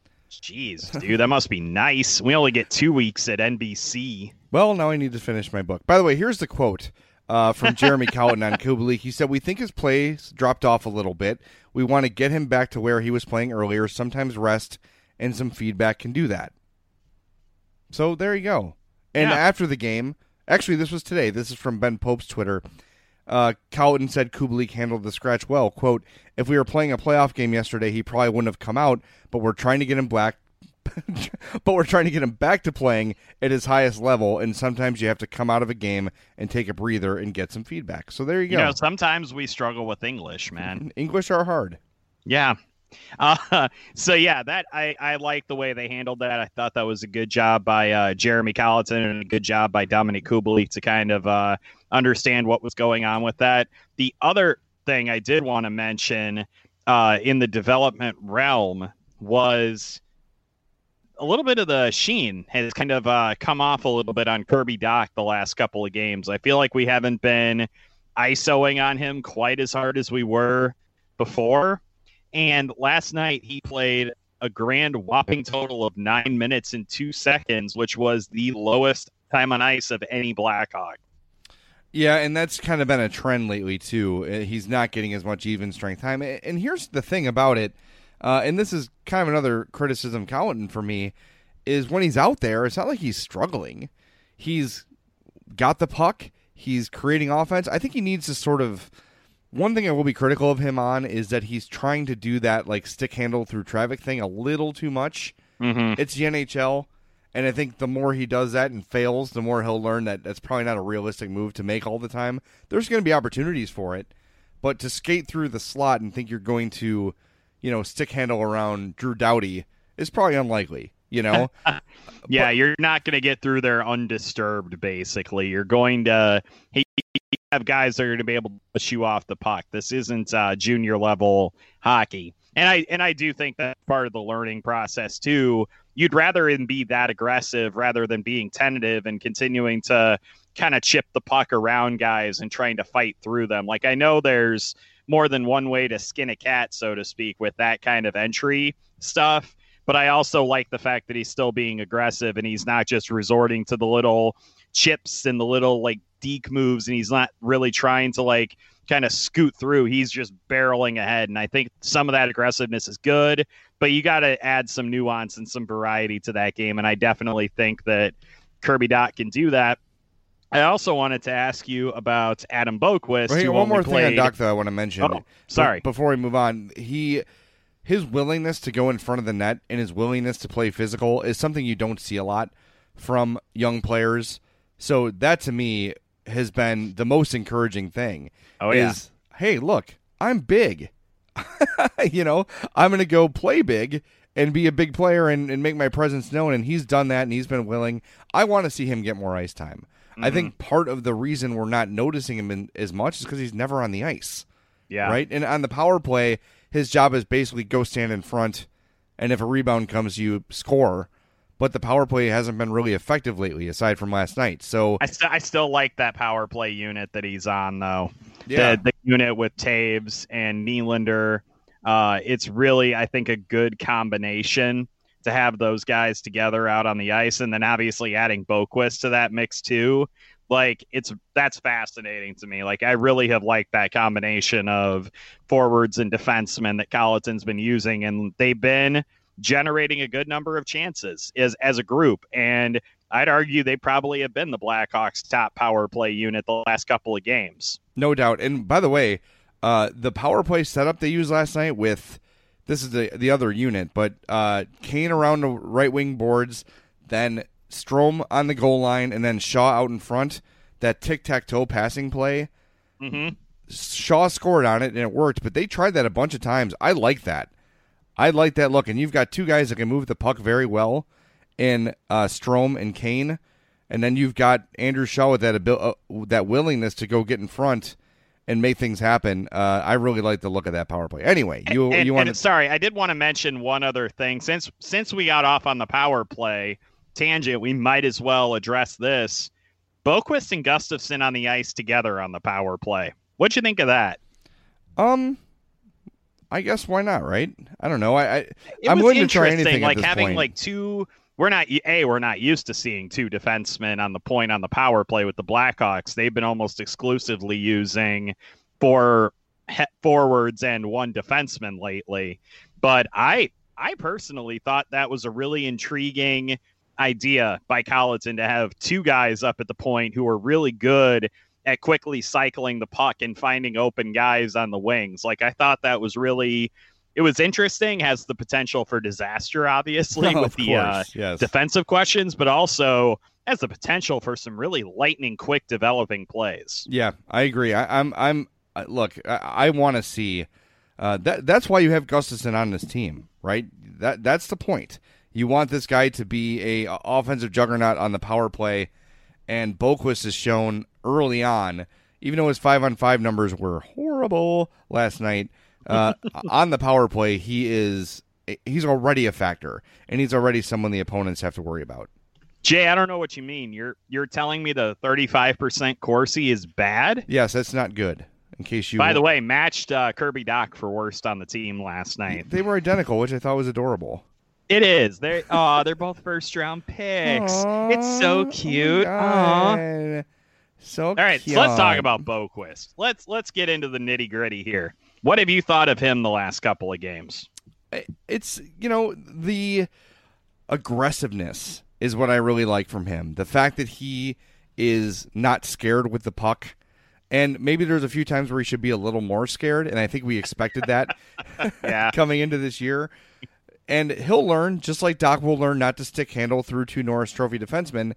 Jeez, dude, that must be nice. We only get two weeks at N B C. Well, now I need to finish my book. By the way, here's the quote uh, from Jeremy Colliton on Kubalik. He said, "We think his play dropped off a little bit. We want to get him back to where he was playing earlier. Sometimes rest and some feedback can do that." So there you go. And Yeah. after the game, actually, this was today. This is from Ben Pope's Twitter. Uh, Colliton said Kubalik handled the scratch well. Quote, if we were playing a playoff game yesterday, he probably wouldn't have come out, but we're trying to get him back. but we're trying to get him back to playing at his highest level, and sometimes you have to come out of a game and take a breather and get some feedback. So there you go. You know, sometimes we struggle with English, man. English are hard. Yeah. Uh, so yeah, that I, I like the way they handled that. I thought that was a good job by uh, Jeremy Colliton and a good job by Dominic Kubalik to kind of uh, understand what was going on with that. The other thing I did want to mention uh, in the development realm was a little bit of the sheen has kind of uh, come off a little bit on Kirby Dach the last couple of games. I feel like we haven't been ISOing on him quite as hard as we were before. And last night he played a grand whopping total of nine minutes and two seconds, which was the lowest time on ice of any Blackhawk. Yeah, and that's kind of been a trend lately, too. He's not getting as much even strength time. And here's the thing about it, uh, and this is kind of another criticism Colliton for me, is when he's out there, it's not like he's struggling. He's got the puck. He's creating offense. I think he needs to sort of... One thing I will be critical of him on is that he's trying to do that like stick handle through traffic thing a little too much. Mm-hmm. It's the N H L, and I think the more he does that and fails, the more he'll learn that that's probably not a realistic move to make all the time. There's going to be opportunities for it, but to skate through the slot and think you're going to, you know, stick handle around Drew Doughty is probably unlikely. You know, yeah, but, you're not going to get through there undisturbed. Basically, you're going to hey, have guys that are going to be able to push you off the puck. This isn't uh, junior level hockey, and I and I do think that's part of the learning process too. You'd rather him be that aggressive rather than being tentative and continuing to kind of chip the puck around guys and trying to fight through them. Like I know there's more than one way to skin a cat, so to speak, with that kind of entry stuff. But I also like the fact that he's still being aggressive and he's not just resorting to the little chips and the little like deke moves, and he's not really trying to like kind of scoot through. He's just barreling ahead. And I think some of that aggressiveness is good, but you got to add some nuance and some variety to that game. And I definitely think that Kirby Dach can do that. I also wanted to ask you about Adam Boqvist. Right, who one only more played... thing on Dach that I want to mention. Oh, sorry. Be- before we move on, he... His willingness to go in front of the net and his willingness to play physical is something you don't see a lot from young players. So that, to me, has been the most encouraging thing. Oh, yeah. Is, hey, look, I'm big. you know, I'm going to go play big and be a big player and, and make my presence known. And he's done that, and he's been willing. I want to see him get more ice time. Mm-hmm. I think part of the reason we're not noticing him in, as much is because he's never on the ice. Yeah. Right? And on the power play, his job is basically go stand in front, and if a rebound comes, you score. But the power play hasn't been really effective lately, aside from last night. So I, st- I still like that power play unit that he's on, though. Yeah. The, the unit with Taves and Nylander. Uh, it's really, I think, a good combination to have those guys together out on the ice, and then obviously adding Boqvist to that mix too. Like it's that's fascinating to me. Like I really have liked that combination of forwards and defensemen that Colliton's been using, and they've been generating a good number of chances as as a group. And I'd argue they probably have been the Blackhawks' top power play unit the last couple of games. No doubt. And by the way, uh, the power play setup they used last night with this is the the other unit, but uh, Kane around the right wing boards, then Strome on the goal line, and then Shaw out in front. That tic-tac-toe passing play, Mm-hmm. Shaw scored on it, and it worked, but they tried that a bunch of times. I like that. I like that look, and you've got two guys that can move the puck very well in uh, Strome and Kane, and then you've got Andrew Shaw with that abil- uh, that willingness to go get in front and make things happen. Uh, I really like the look of that power play. Anyway, you and, you want to... Sorry, I did want to mention one other thing. Since since we got off on the power play tangent, we might as well address this. Boqvist and Gustafsson on the ice together on the power play. What'd you think of that? Um, I guess why not, right? I don't know. I, I I'm willing to try anything like at this having point. like two. We're not a we're not used to seeing two defensemen on the point on the power play with the Blackhawks. They've been almost exclusively using four he- forwards and one defenseman lately. But I I personally thought that was a really intriguing idea by Colleton to have two guys up at the point who are really good at quickly cycling the puck and finding open guys on the wings. Like, I thought that was really, it was interesting, has the potential for disaster, obviously, oh, with the uh, yes. defensive questions, but also has the potential for some really lightning quick developing plays. Yeah, I agree. I, I'm, I'm, look, I, I want to see, uh, that. that's why you have Gustafsson on this team, right? That That's the point. You want this guy to be a offensive juggernaut on the power play, and Boqvist has shown early on, even though his five-on-five numbers were horrible last night, uh, on the power play, he is he's already a factor, and he's already someone the opponents have to worry about. Jay, I don't know what you mean. You're you're telling me the thirty-five percent Corsi is bad? Yes, that's not good. In case you, by the way, matched uh, Kirby Dach for worst on the team last night. They were identical, which I thought was adorable. It is. They oh, they're both first round picks. Aww, it's so cute. Oh so all right, cute. So let's talk about Boqvist. Let's let's get into the nitty gritty here. What have you thought of him the last couple of games? It's, you know, the aggressiveness is what I really like from him. The fact that he is not scared with the puck. And maybe there's a few times where he should be a little more scared, and I think we expected that yeah. coming into this year. And he'll learn, just like Dach will learn not to stick handle through two Norris Trophy defensemen,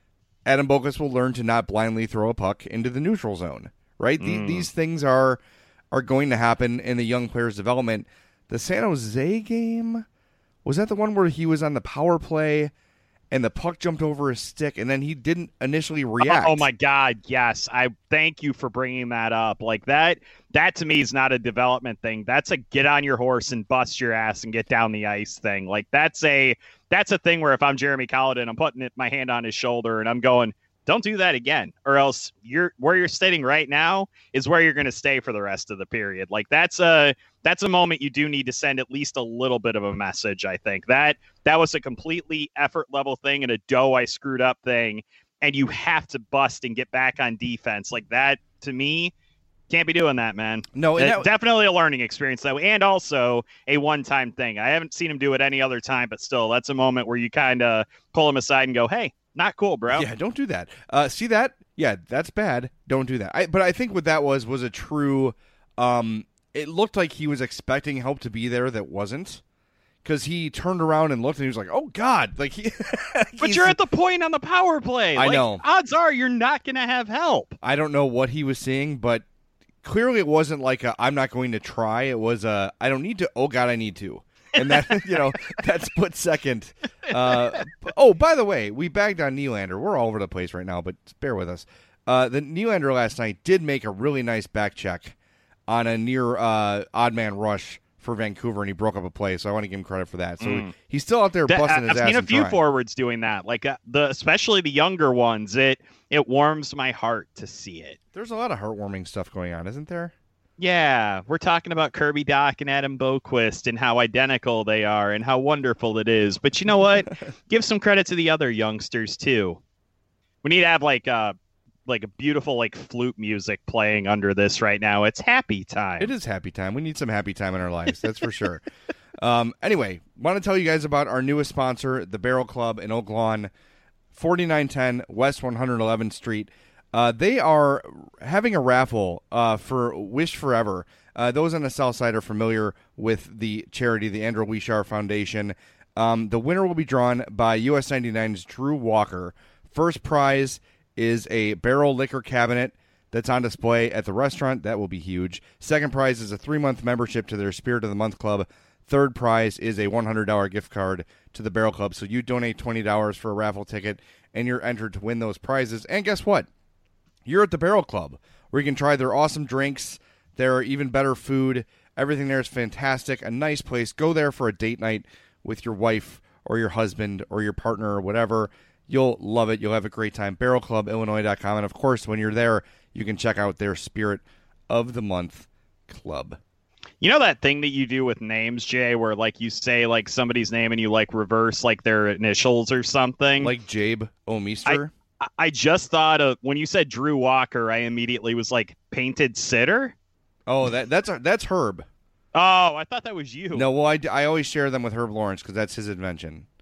Adam Boqvist will learn to not blindly throw a puck into the neutral zone, right? Mm. The, these things are are going to happen in the young player's development. The San Jose game, was that the one where he was on the power play and the puck jumped over his stick, and then he didn't initially react? Oh, oh my God, yes. I thank you for bringing that up. Like that, that to me is not a development thing. That's a get on your horse and bust your ass and get down the ice thing. Like that's a that's a thing where if I'm Jeremy Colleton, I'm putting it, my hand on his shoulder and I'm going, don't do that again, or else you're where you're sitting right now is where you're going to stay for the rest of the period. Like that's a that's a moment you do need to send at least a little bit of a message. I think that that was a completely effort level thing and a dough I screwed up thing, and you have to bust and get back on defense. Like that to me, can't be doing that, man. No, and that, definitely a learning experience though, and also a one-time thing. I haven't seen him do it any other time, but still, that's a moment where you kind of pull him aside and go, "Hey, not cool, bro." Yeah, don't do that. Uh, see that? Yeah, that's bad. Don't do that. I, but I think what that was was a true. Um, it looked like he was expecting help to be there that wasn't, because he turned around and looked and he was like, "Oh God!" Like he. But you're at the point on the power play. I like, know. Odds are you're not going to have help. I don't know what he was seeing, but clearly it wasn't like a, I'm not going to try. It was a, I don't need to. Oh God, I need to. And that, you know, that split second. Uh, oh, by the way, we bagged on Nylander. We're all over the place right now, but bear with us. Uh, the Nylander last night did make a really nice back check on a near uh, odd man rush for Vancouver, and he broke up a play. So I want to give him credit for that. So Mm. he's still out there That- busting his I've ass. seen a and few trying. forwards doing that, like uh, the especially the younger ones. It it warms my heart to see it. There's a lot of heartwarming stuff going on, isn't there? Yeah, we're talking about Kirby Dach and Adam Boqvist and how identical they are and how wonderful it is. But you know what? Give some credit to the other youngsters too. We need to have like a like a beautiful like flute music playing under this right now. It's happy time. It is happy time. We need some happy time in our lives. That's for sure. Um, anyway, want to tell you guys about our newest sponsor, the Barrel Club in Oak Lawn, forty-nine ten West one hundred eleventh Street. Uh, they are having a raffle uh, for Wish Forever. Uh, those on the south side are familiar with the charity, the Andrew Wishar Foundation. Um, the winner will be drawn by U S ninety-nine's Drew Walker. First prize is a barrel liquor cabinet that's on display at the restaurant. That will be huge. Second prize is a three-month membership to their Spirit of the Month Club. Third prize is a one hundred dollars gift card to the Barrel Club. So you donate twenty dollars for a raffle ticket, and you're entered to win those prizes. And guess what? You're at the Barrel Club, where you can try their awesome drinks, their even better food. Everything there is fantastic. A nice place. Go there for a date night with your wife or your husband or your partner or whatever. You'll love it. You'll have a great time. barrel club illinois dot com. And, of course, when you're there, you can check out their Spirit of the Month Club. You know that thing that you do with names, Jay, where like you say like somebody's name and you like reverse like their initials or something? Like Jabe O'Meester? I, I just thought of when you said Drew Walker, I immediately was like Painted Sitter. Oh, that that's that's Herb. Oh, I thought that was you. No, well, I, I always share them with Herb Lawrence because that's his invention.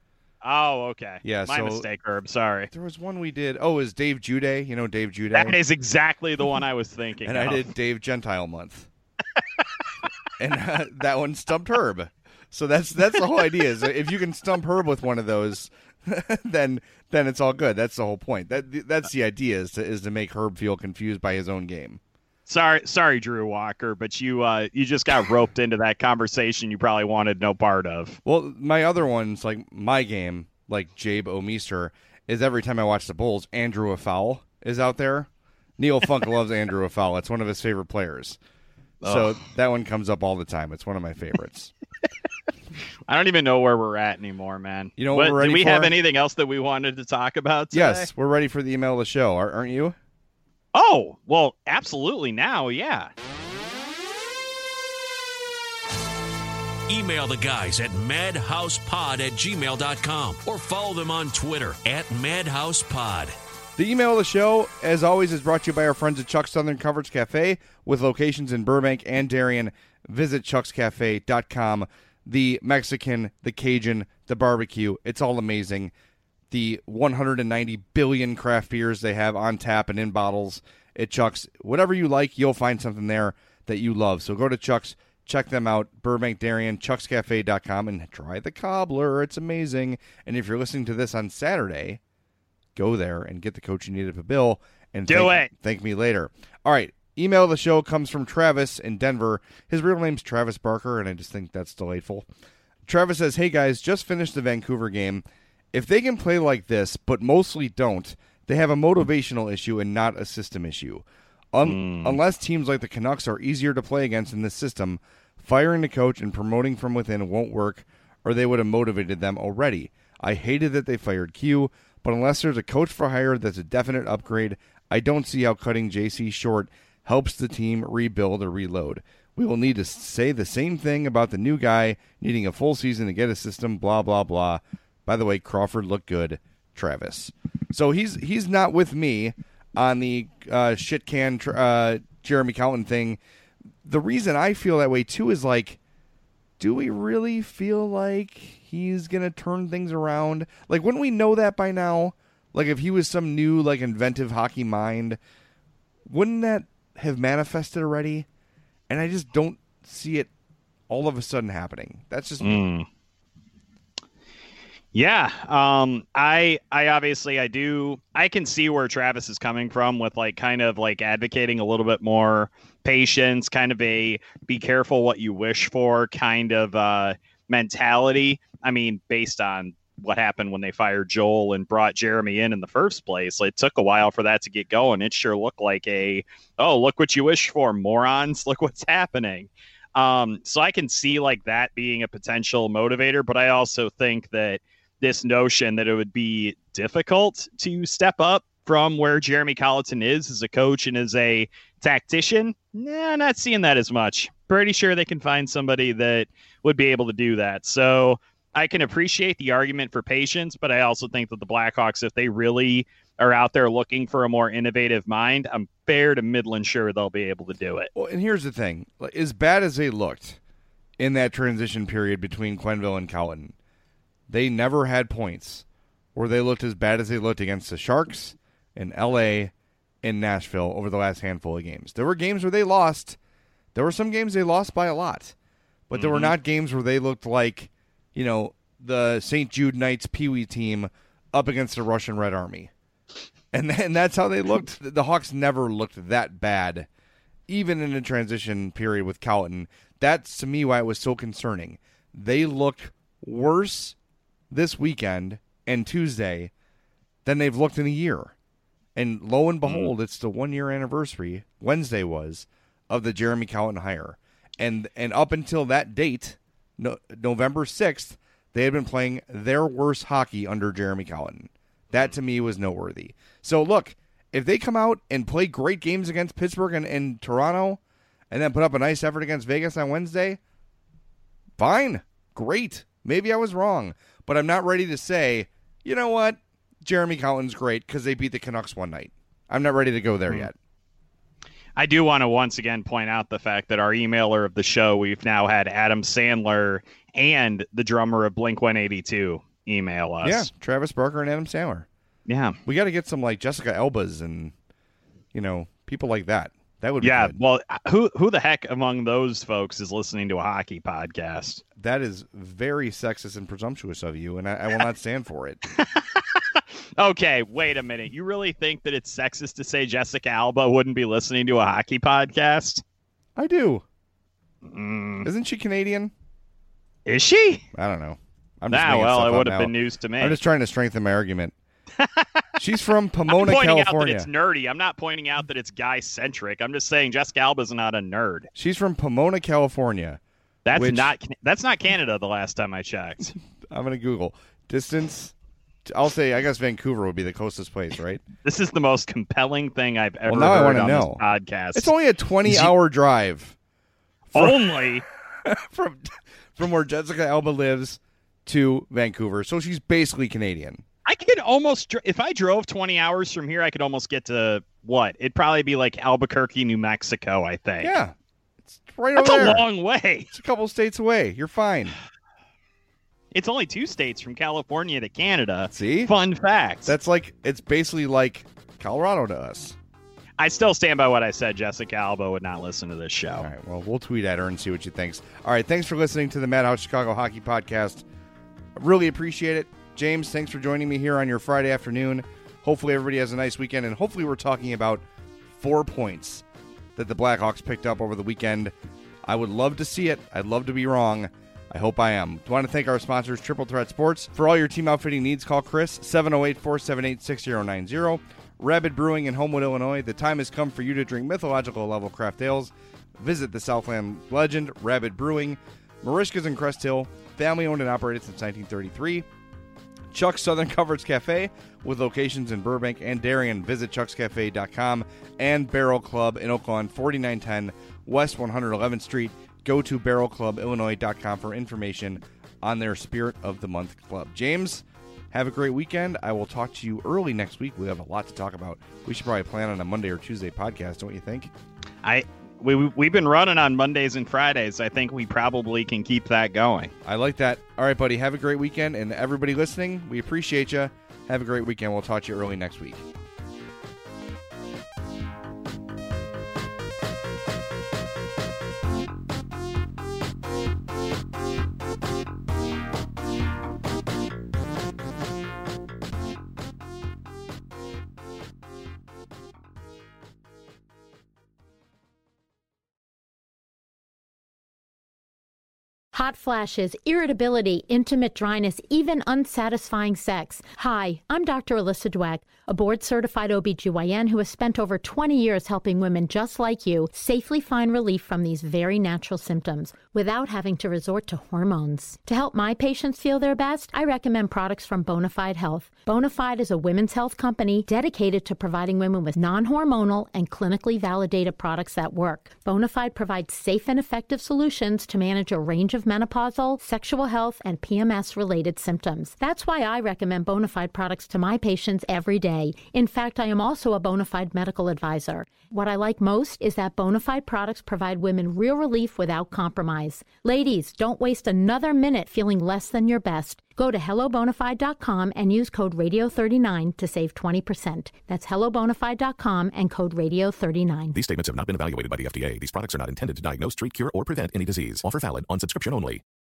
Oh, okay. Yeah, My so mistake, Herb. Sorry. there was one we did. Oh, it was Dave Juday. You know Dave Juday? That is exactly the one I was thinking and of. I did Dave Gentile Month. and uh, that one stumped Herb. So that's that's the whole idea. Is if you can stump Herb with one of those, then then it's all good. That's the whole point. That that's the idea is to is to make Herb feel confused by his own game. Sorry, sorry, Drew Walker, but you uh, you just got roped into that conversation you probably wanted no part of. Well, my other ones, like my game, like Jabe O'Meester, is every time I watch the Bulls, Andrew Affoul is out there. Neil Funk loves Andrew Affoul. It's one of his favorite players. So Ugh. that one comes up all the time. It's one of my favorites. I don't even know where we're at anymore, man. You know what But we're ready did we for? have anything else that we wanted to talk about today? Yes, we're ready for the email of the show, ar- aren't you? Oh, well, absolutely now, yeah. Email the guys at madhousepod at gmail dot com or follow them on Twitter at madhousepod. The email of the show, as always, is brought to you by our friends at Chuck's Southern Comforts Cafe with locations in Burbank and Darien. Visit chucks cafe dot com. The Mexican, the Cajun, the barbecue, it's all amazing. The one hundred ninety billion craft beers they have on tap and in bottles at Chuck's. Whatever you like, you'll find something there that you love. So go to Chuck's, check them out, Burbank, Darien, chucks cafe dot com, and try the cobbler. It's amazing. And if you're listening to this on Saturday, go there and get the coach you need at the bill. And Do thank, it. Thank me later. All right. Email of the show comes from Travis in Denver. His real name's Travis Barker, and I just think that's delightful. Travis says, hey guys, just finished the Vancouver game. If they can play like this, but mostly don't, they have a motivational issue and not a system issue. Un- Mm. Unless teams like the Canucks are easier to play against in this system, firing the coach and promoting from within won't work, or they would have motivated them already. I hated that they fired Q, but unless there's a coach for hire that's a definite upgrade, I don't see how cutting J C short helps the team rebuild or reload. We will need to say the same thing about the new guy needing a full season to get a system, blah, blah, blah. By the way, Crawford looked good, Travis. So he's he's not with me on the uh, shit can uh, Jeremy Colliton thing. The reason I feel that way, too, is like, do we really feel like he's going to turn things around? Like, wouldn't we know that by now? Like, if he was some new, like, inventive hockey mind, wouldn't that have manifested already? And I just don't see it all of a sudden happening. That's just Mm. Yeah, um, I, I obviously I do. I can see where Travis is coming from with like kind of like advocating a little bit more patience, kind of a be careful what you wish for kind of uh, mentality. I mean, based on what happened when they fired Joel and brought Jeremy in in the first place, it took a while for that to get going. It sure looked like a, oh, look what you wish for, morons. Look what's happening. Um, so I can see like that being a potential motivator, but I also think that this notion that it would be difficult to step up from where Jeremy Colliton is as a coach and as a tactician, nah, not seeing that as much. Pretty sure they can find somebody that would be able to do that. So I can appreciate the argument for patience, but I also think that the Blackhawks, if they really are out there looking for a more innovative mind, I'm fair to Midland sure they'll be able to do it. Well, and here's the thing. As bad as they looked in that transition period between Quenneville and Colliton, they never had points where they looked as bad as they looked against the Sharks in L A and Nashville over the last handful of games. There were games where they lost. There were some games they lost by a lot. But there Mm-hmm. were not games where they looked like, you know, the Saint Jude Knights Pee Wee team up against the Russian Red Army. And, and that's how they looked. The Hawks never looked that bad, even in a transition period with Colliton. That's, to me, why it was so concerning. They looked worse this weekend and Tuesday than they've looked in a year. And lo and behold, mm. it's the one-year anniversary, Wednesday was, of the Jeremy Colliton hire. And and up until that date, no, November sixth, they had been playing their worst hockey under Jeremy Colliton. That, to me, was noteworthy. So, look, if they come out and play great games against Pittsburgh and, and Toronto and then put up a nice effort against Vegas on Wednesday, fine, great. Maybe I was wrong. But I'm not ready to say, you know what, Jeremy Colliton's great because they beat the Canucks one night. I'm not ready to go there mm-hmm. yet. I do want to once again point out the fact that our emailer of the show, we've now had Adam Sandler and the drummer of Blink one eighty-two email us. Yeah, Travis Barker and Adam Sandler. Yeah. We got to get some like Jessica Albas and, you know, people like that. That would be Yeah, good. well, who who the heck among those folks is listening to a hockey podcast? That is very sexist and presumptuous of you, and I, I will not stand for it. Okay, wait a minute. You really think that it's sexist to say Jessica Alba wouldn't be listening to a hockey podcast? I do. Mm. Isn't she Canadian? Is she? I don't know. I'm just Nah, making well, stuff it up would have now. been news to me. I'm just trying to strengthen my argument. She's from I'm Pomona, pointing California. out that it's nerdy. I'm not pointing out that it's guy-centric. I'm just saying Jessica Alba's not a nerd. She's from Pomona, California. That's Which- not that's not Canada the last time I checked. I'm going to Google. Distance. I'll say, I guess Vancouver would be the closest place, right? This is the most compelling thing I've ever Well, now I heard wanna on know. this podcast. It's only a twenty-hour drive Only from from where Jessica Alba lives to Vancouver, so she's basically Canadian. I could almost dr- if I drove twenty hours from here, I could almost get to what? It'd probably be like Albuquerque, New Mexico, I think. Yeah, it's right That's over a there. long way. It's a couple states away. You're fine. It's only two states from California to Canada. See? Fun fact. That's like, it's basically like Colorado to us. I still stand by what I said. Jessica Alba would not listen to this show. All right, well, we'll tweet at her and see what she thinks. All right, thanks for listening to the Madhouse Chicago Hockey Podcast. I really appreciate it. James, thanks for joining me here on your Friday afternoon. Hopefully everybody has a nice weekend, and hopefully we're talking about four points that the Blackhawks picked up over the weekend. I would love to see it. I'd love to be wrong. I hope I am. I want to thank our sponsors, Triple Threat Sports. For all your team outfitting needs, call Chris, seven oh eight, four seven eight, six oh nine oh. Rabid Brewing in Homewood, Illinois. The time has come for you to drink mythological level craft ales. Visit the Southland legend, Rabid Brewing. Marishka's in Crest Hill, family owned and operated since nineteen thirty-three. Chuck's Southern Comforts Cafe with locations in Burbank and Darien. Visit chucks cafe dot com. And Barrel Club in Oakland, forty-nine ten West one hundred eleventh Street. Go to barrel club illinois dot com for information on their Spirit of the Month Club. James, have a great weekend. I will talk to you early next week. We have a lot to talk about. We should probably plan on a Monday or Tuesday podcast, don't you think? I we we- we've been running on Mondays and Fridays. I think we probably can keep that going. I like that. All right, buddy. Have a great weekend. And everybody listening, we appreciate you. Have a great weekend. We'll talk to you early next week. Hot flashes, irritability, intimate dryness, even unsatisfying sex. Hi, I'm Doctor Alyssa Dweck, a board-certified O B G Y N who has spent over twenty years helping women just like you safely find relief from these very natural symptoms without having to resort to hormones. To help my patients feel their best, I recommend products from Bonafide Health. Bonafide is a women's health company dedicated to providing women with non-hormonal and clinically validated products that work. Bonafide provides safe and effective solutions to manage a range of menopausal, sexual health, and P M S-related symptoms. That's why I recommend Bonafide products to my patients every day. In fact, I am also a Bonafide medical advisor. What I like most is that Bonafide products provide women real relief without compromise. Ladies, don't waste another minute feeling less than your best. Go to hello bonafide dot com and use code radio thirty-nine to save twenty percent. That's hello bonafide dot com and code radio thirty-nine. These statements have not been evaluated by the F D A. These products are not intended to diagnose, treat, cure, or prevent any disease. Offer valid on subscription only.